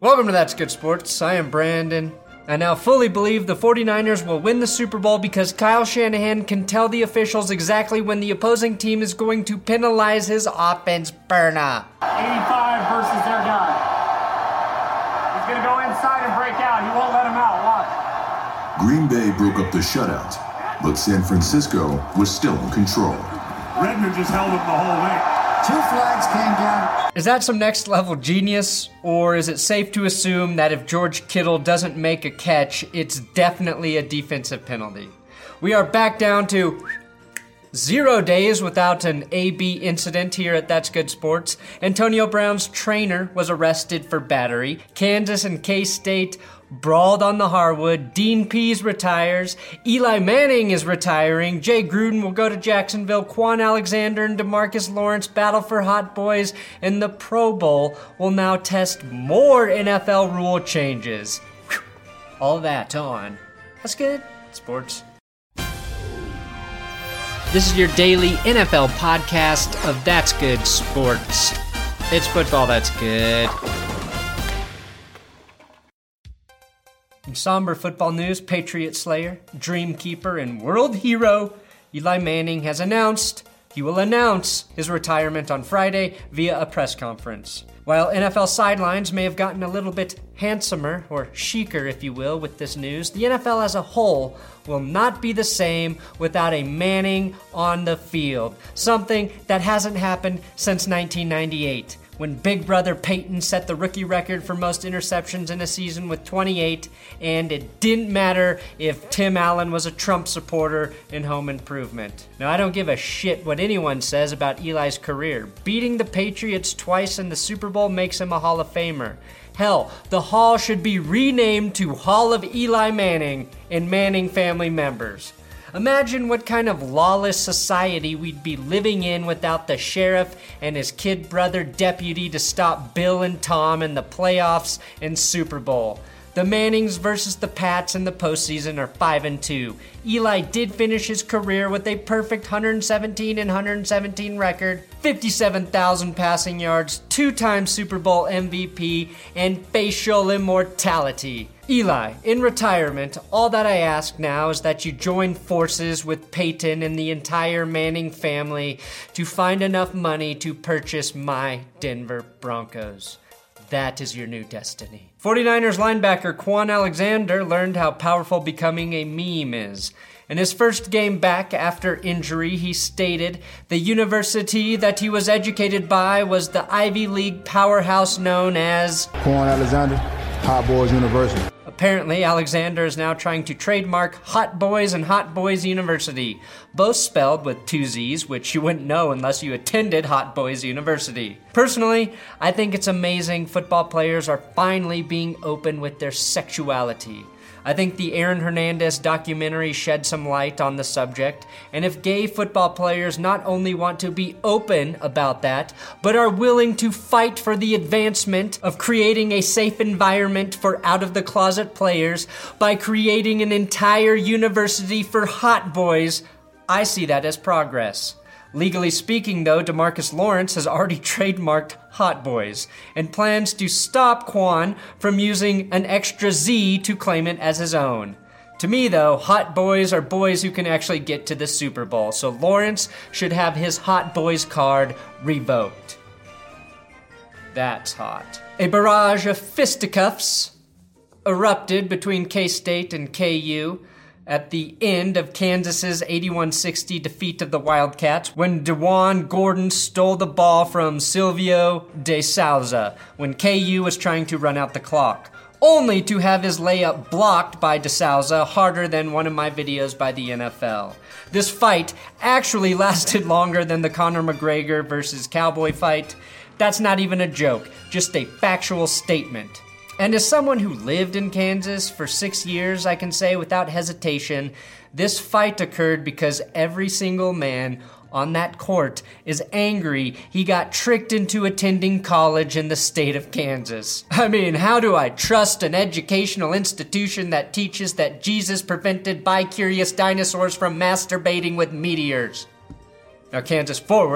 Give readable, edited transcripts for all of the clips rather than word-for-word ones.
Welcome to That's Good Sports. I am Brandon. I now fully believe the 49ers will win the Super Bowl because Kyle Shanahan can tell the officials exactly when the opposing team is going to penalize his offense burner. 85 versus their guy. He's going to go inside and break out. He won't let him out. Watch. Green Bay broke up the shutout, but San Francisco was still in control. Redmond just held him the whole way. 2 flags came down. Is that some next level genius, or is it safe to assume that if George Kittle doesn't make a catch, it's definitely a defensive penalty? We are back down to 0 days without an AB incident here at That's Good Sports. Antonio Brown's trainer was arrested for battery. Kansas and K-State brawled on the hardwood. Dean Pease retires. Eli Manning is retiring. Jay Gruden will go to Jacksonville. Quan Alexander and DeMarcus Lawrence battle for Hot Boys. And the Pro Bowl will now test more NFL rule changes. Whew. All that on That's Good Sports. This is your daily NFL podcast of That's Good Sports. It's football that's good. In somber football news, Patriot Slayer, Dream Keeper, and World Hero Eli Manning has announced he will announce his retirement on Friday via a press conference. While NFL sidelines may have gotten a little bit handsomer, or chicer if you will, with this news, the NFL as a whole will not be the same without a Manning on the field. Something that hasn't happened since 1998. When Big Brother Peyton set the rookie record for most interceptions in a season with 28, and it didn't matter if Tim Allen was a Trump supporter in Home Improvement. Now, I don't give a shit what anyone says about Eli's career. Beating the Patriots twice in the Super Bowl makes him a Hall of Famer. Hell, the Hall should be renamed to Hall of Eli Manning and Manning family members. Imagine what kind of lawless society we'd be living in without the sheriff and his kid brother deputy to stop Bill and Tom in the playoffs and Super Bowl. The Mannings versus the Pats in the postseason are 5-2. Eli did finish his career with a perfect 117 record, 57,000 passing yards, 2-time Super Bowl MVP, and facial immortality. Eli, in retirement, all that I ask now is that you join forces with Peyton and the entire Manning family to find enough money to purchase my Denver Broncos. That is your new destiny. 49ers linebacker Quan Alexander learned how powerful becoming a meme is. In his first game back after injury, he stated the university that he was educated by was the Ivy League powerhouse known as Quan Alexander, Hot Boys University. Apparently, Alexander is now trying to trademark Hot Boys and Hot Boys University, both spelled with 2 Z's, which you wouldn't know unless you attended Hot Boys University. Personally, I think it's amazing football players are finally being open with their sexuality. I think the Aaron Hernandez documentary shed some light on the subject, and if gay football players not only want to be open about that, but are willing to fight for the advancement of creating a safe environment for out-of-the-closet players by creating an entire university for hot boys, I see that as progress. Legally speaking, though, DeMarcus Lawrence has already trademarked Hot Boys and plans to stop Quan from using an extra Z to claim it as his own. To me, though, Hot Boys are boys who can actually get to the Super Bowl, so Lawrence should have his Hot Boys card revoked. That's hot. A barrage of fisticuffs erupted between K-State and KU at the end of Kansas's 81-60 defeat of the Wildcats when DeJuan Gordon stole the ball from Silvio De Souza when KU was trying to run out the clock, only to have his layup blocked by De Souza harder than one of my videos by the NFL. This fight actually lasted longer than the Conor McGregor versus Cowboy fight. That's not even a joke, just a factual statement. And as someone who lived in Kansas for 6 years, I can say without hesitation, this fight occurred because every single man on that court is angry he got tricked into attending college in the state of Kansas. I mean, how do I trust an educational institution that teaches that Jesus prevented bi-curious dinosaurs from masturbating with meteors? Now, Kansas forward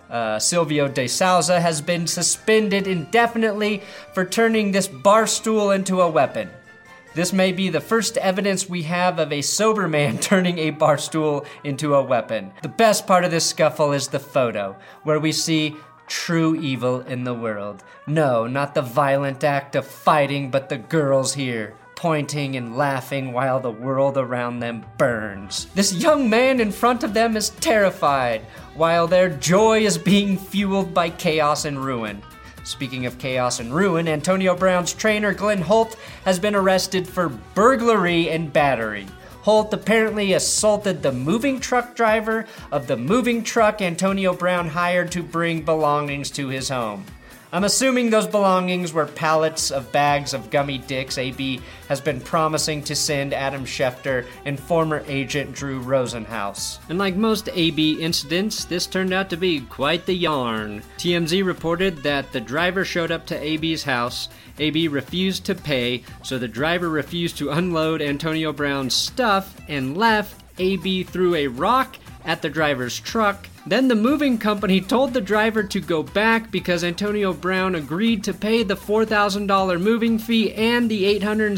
Silvio De Souza has been suspended indefinitely for turning this bar stool into a weapon. This may be the first evidence we have of a sober man turning a bar stool into a weapon. The best part of this scuffle is the photo, where we see true evil in the world. No, not the violent act of fighting, but the girls here, pointing and laughing while the world around them burns. This young man in front of them is terrified, while their joy is being fueled by chaos and ruin. Speaking of chaos and ruin, Antonio Brown's trainer Glenn Holt has been arrested for burglary and battery. Holt apparently assaulted the moving truck driver of the moving truck Antonio Brown hired to bring belongings to his home. I'm assuming those belongings were pallets of bags of gummy dicks AB has been promising to send Adam Schefter and former agent Drew Rosenhaus. And like most AB incidents, this turned out to be quite the yarn. TMZ reported that the driver showed up to AB's house. AB refused to pay, so the driver refused to unload Antonio Brown's stuff and left. AB threw a rock at the driver's truck. Then the moving company told the driver to go back because Antonio Brown agreed to pay the $4,000 moving fee and the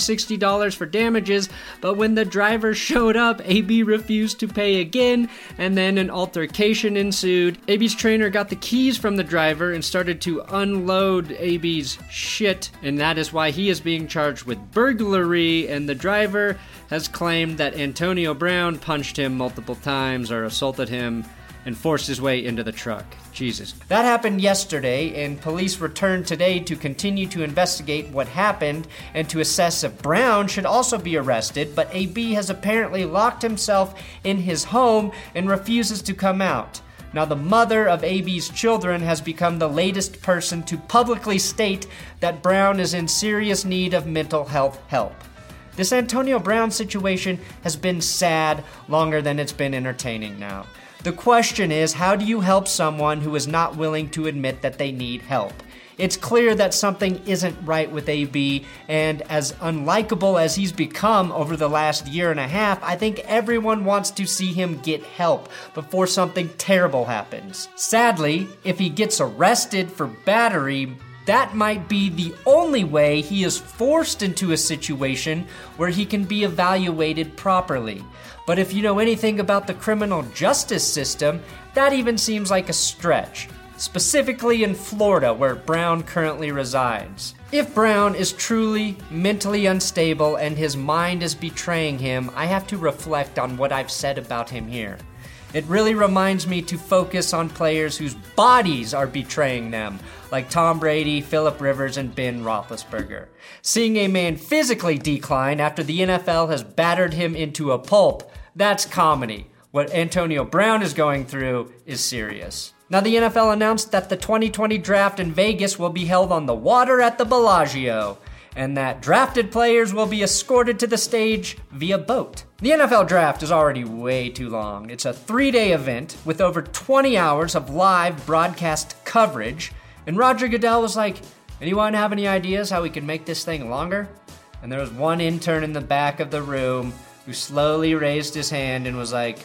$860 for damages, but when the driver showed up, AB refused to pay again, and then an altercation ensued. AB's trainer got the keys from the driver and started to unload AB's shit, and that is why he is being charged with burglary, and the driver has claimed that Antonio Brown punched him multiple times or assaulted him and forced his way into the truck. Jesus. That happened yesterday, and police returned today to continue to investigate what happened and to assess if Brown should also be arrested, but AB has apparently locked himself in his home and refuses to come out. Now, the mother of AB's children has become the latest person to publicly state that Brown is in serious need of mental health help. This Antonio Brown situation has been sad longer than it's been entertaining now. The question is, how do you help someone who is not willing to admit that they need help? It's clear that something isn't right with AB, and as unlikable as he's become over the last year and a half, I think everyone wants to see him get help before something terrible happens. Sadly, if he gets arrested for battery, that might be the only way he is forced into a situation where he can be evaluated properly. But if you know anything about the criminal justice system, that even seems like a stretch, specifically in Florida, where Brown currently resides. If Brown is truly mentally unstable and his mind is betraying him, I have to reflect on what I've said about him here. It really reminds me to focus on players whose bodies are betraying them, like Tom Brady, Phillip Rivers, and Ben Roethlisberger. Seeing a man physically decline after the NFL has battered him into a pulp, that's comedy. What Antonio Brown is going through is serious. Now, the NFL announced that the 2020 draft in Vegas will be held on the water at the Bellagio, and that drafted players will be escorted to the stage via boat. The NFL draft is already way too long. It's a 3-day event with over 20 hours of live broadcast coverage, and Roger Goodell was like, anyone have any ideas how we can make this thing longer? And there was one intern in the back of the room who slowly raised his hand and was like,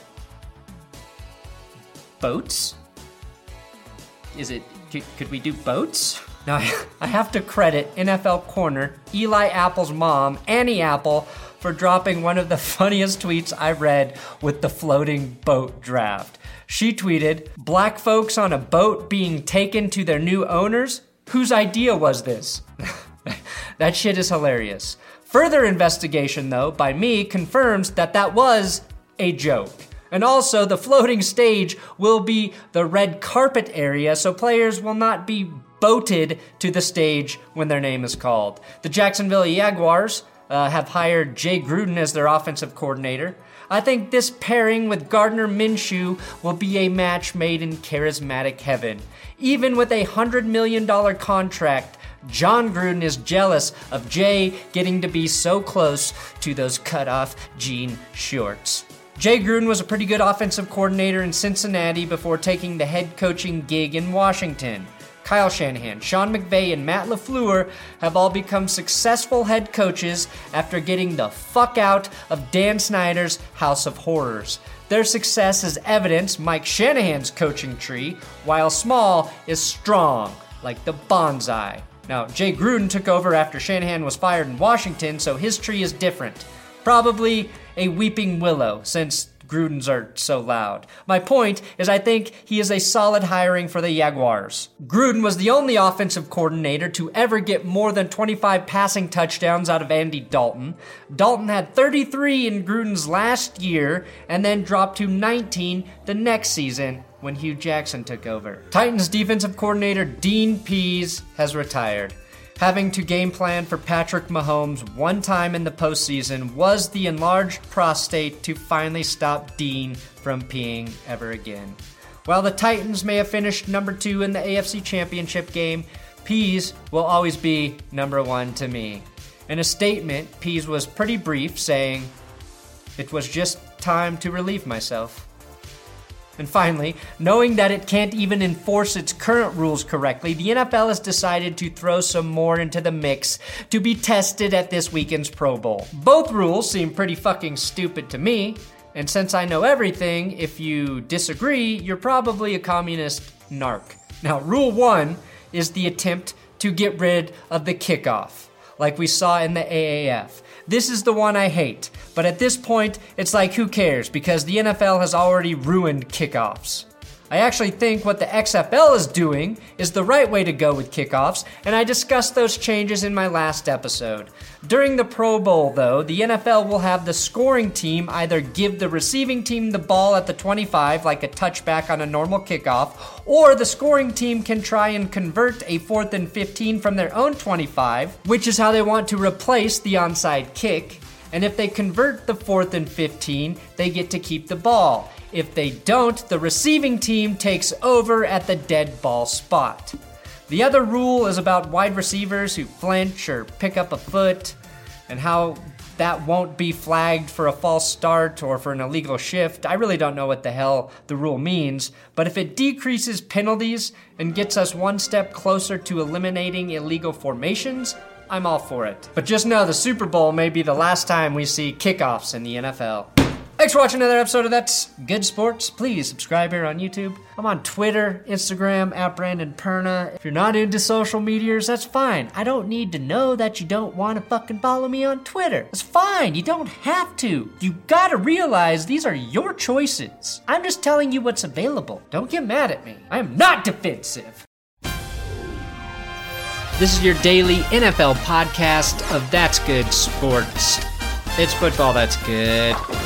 boats? Could we do boats? Now, I have to credit NFL corner Eli Apple's mom, Annie Apple, for dropping one of the funniest tweets I read with the floating boat draft. She tweeted, "Black folks on a boat being taken to their new owners? Whose idea was this?" That shit is hilarious. Further investigation, though, by me confirms that that was a joke. And also, the floating stage will be the red carpet area, so players will not be boated to the stage when their name is called. The Jacksonville Jaguars have hired Jay Gruden as their offensive coordinator. I think this pairing with Gardner Minshew will be a match made in charismatic heaven. Even with a $100 million contract, John Gruden is jealous of Jay getting to be so close to those cut-off jean shorts. Jay Gruden was a pretty good offensive coordinator in Cincinnati before taking the head coaching gig in Washington. Kyle Shanahan, Sean McVay, and Matt LaFleur have all become successful head coaches after getting the fuck out of Dan Snyder's House of Horrors. Their success is evidence Mike Shanahan's coaching tree, while small, is strong, like the bonsai. Now, Jay Gruden took over after Shanahan was fired in Washington, so his tree is different. Probably a weeping willow, since Gruden's are so loud. My point is I think he is a solid hiring for the Jaguars. Gruden was the only offensive coordinator to ever get more than 25 passing touchdowns out of Andy Dalton. Dalton had 33 in Gruden's last year and then dropped to 19 the next season when Hugh Jackson took over. Titans defensive coordinator Dean Pease has retired. Having to game plan for Patrick Mahomes one time in the postseason was the enlarged prostate to finally stop Dean from peeing ever again. While the Titans may have finished number 2 in the AFC Championship game, Pease will always be number 1 to me. In a statement, Pease was pretty brief, saying, "It was just time to relieve myself." And finally, knowing that it can't even enforce its current rules correctly, the NFL has decided to throw some more into the mix to be tested at this weekend's Pro Bowl. Both rules seem pretty fucking stupid to me, and since I know everything, if you disagree, you're probably a communist narc. Now, Rule 1 is the attempt to get rid of the kickoff, like we saw in the AAF. This is the one I hate, but at this point, it's like who cares, because the NFL has already ruined kickoffs. I actually think what the XFL is doing is the right way to go with kickoffs, and I discussed those changes in my last episode. During the Pro Bowl, though, the NFL will have the scoring team either give the receiving team the ball at the 25, like a touchback on a normal kickoff, or the scoring team can try and convert a 4th and 15 from their own 25, which is how they want to replace the onside kick. And if they convert the 4th and 15, they get to keep the ball. If they don't, the receiving team takes over at the dead ball spot. The other rule is about wide receivers who flinch or pick up a foot, and how that won't be flagged for a false start or for an illegal shift. I really don't know what the hell the rule means, but if it decreases penalties and gets us one step closer to eliminating illegal formations, I'm all for it. But just know the Super Bowl may be the last time we see kickoffs in the NFL. Thanks for watching another episode of That's Good Sports. Please subscribe here on YouTube. I'm on Twitter, Instagram, @BrandonPerna. If you're not into social medias, that's fine. I don't need to know that you don't want to fucking follow me on Twitter. It's fine. You don't have to. You gotta realize these are your choices. I'm just telling you what's available. Don't get mad at me. I am not defensive. This is your daily NFL podcast of That's Good Sports. It's football that's good.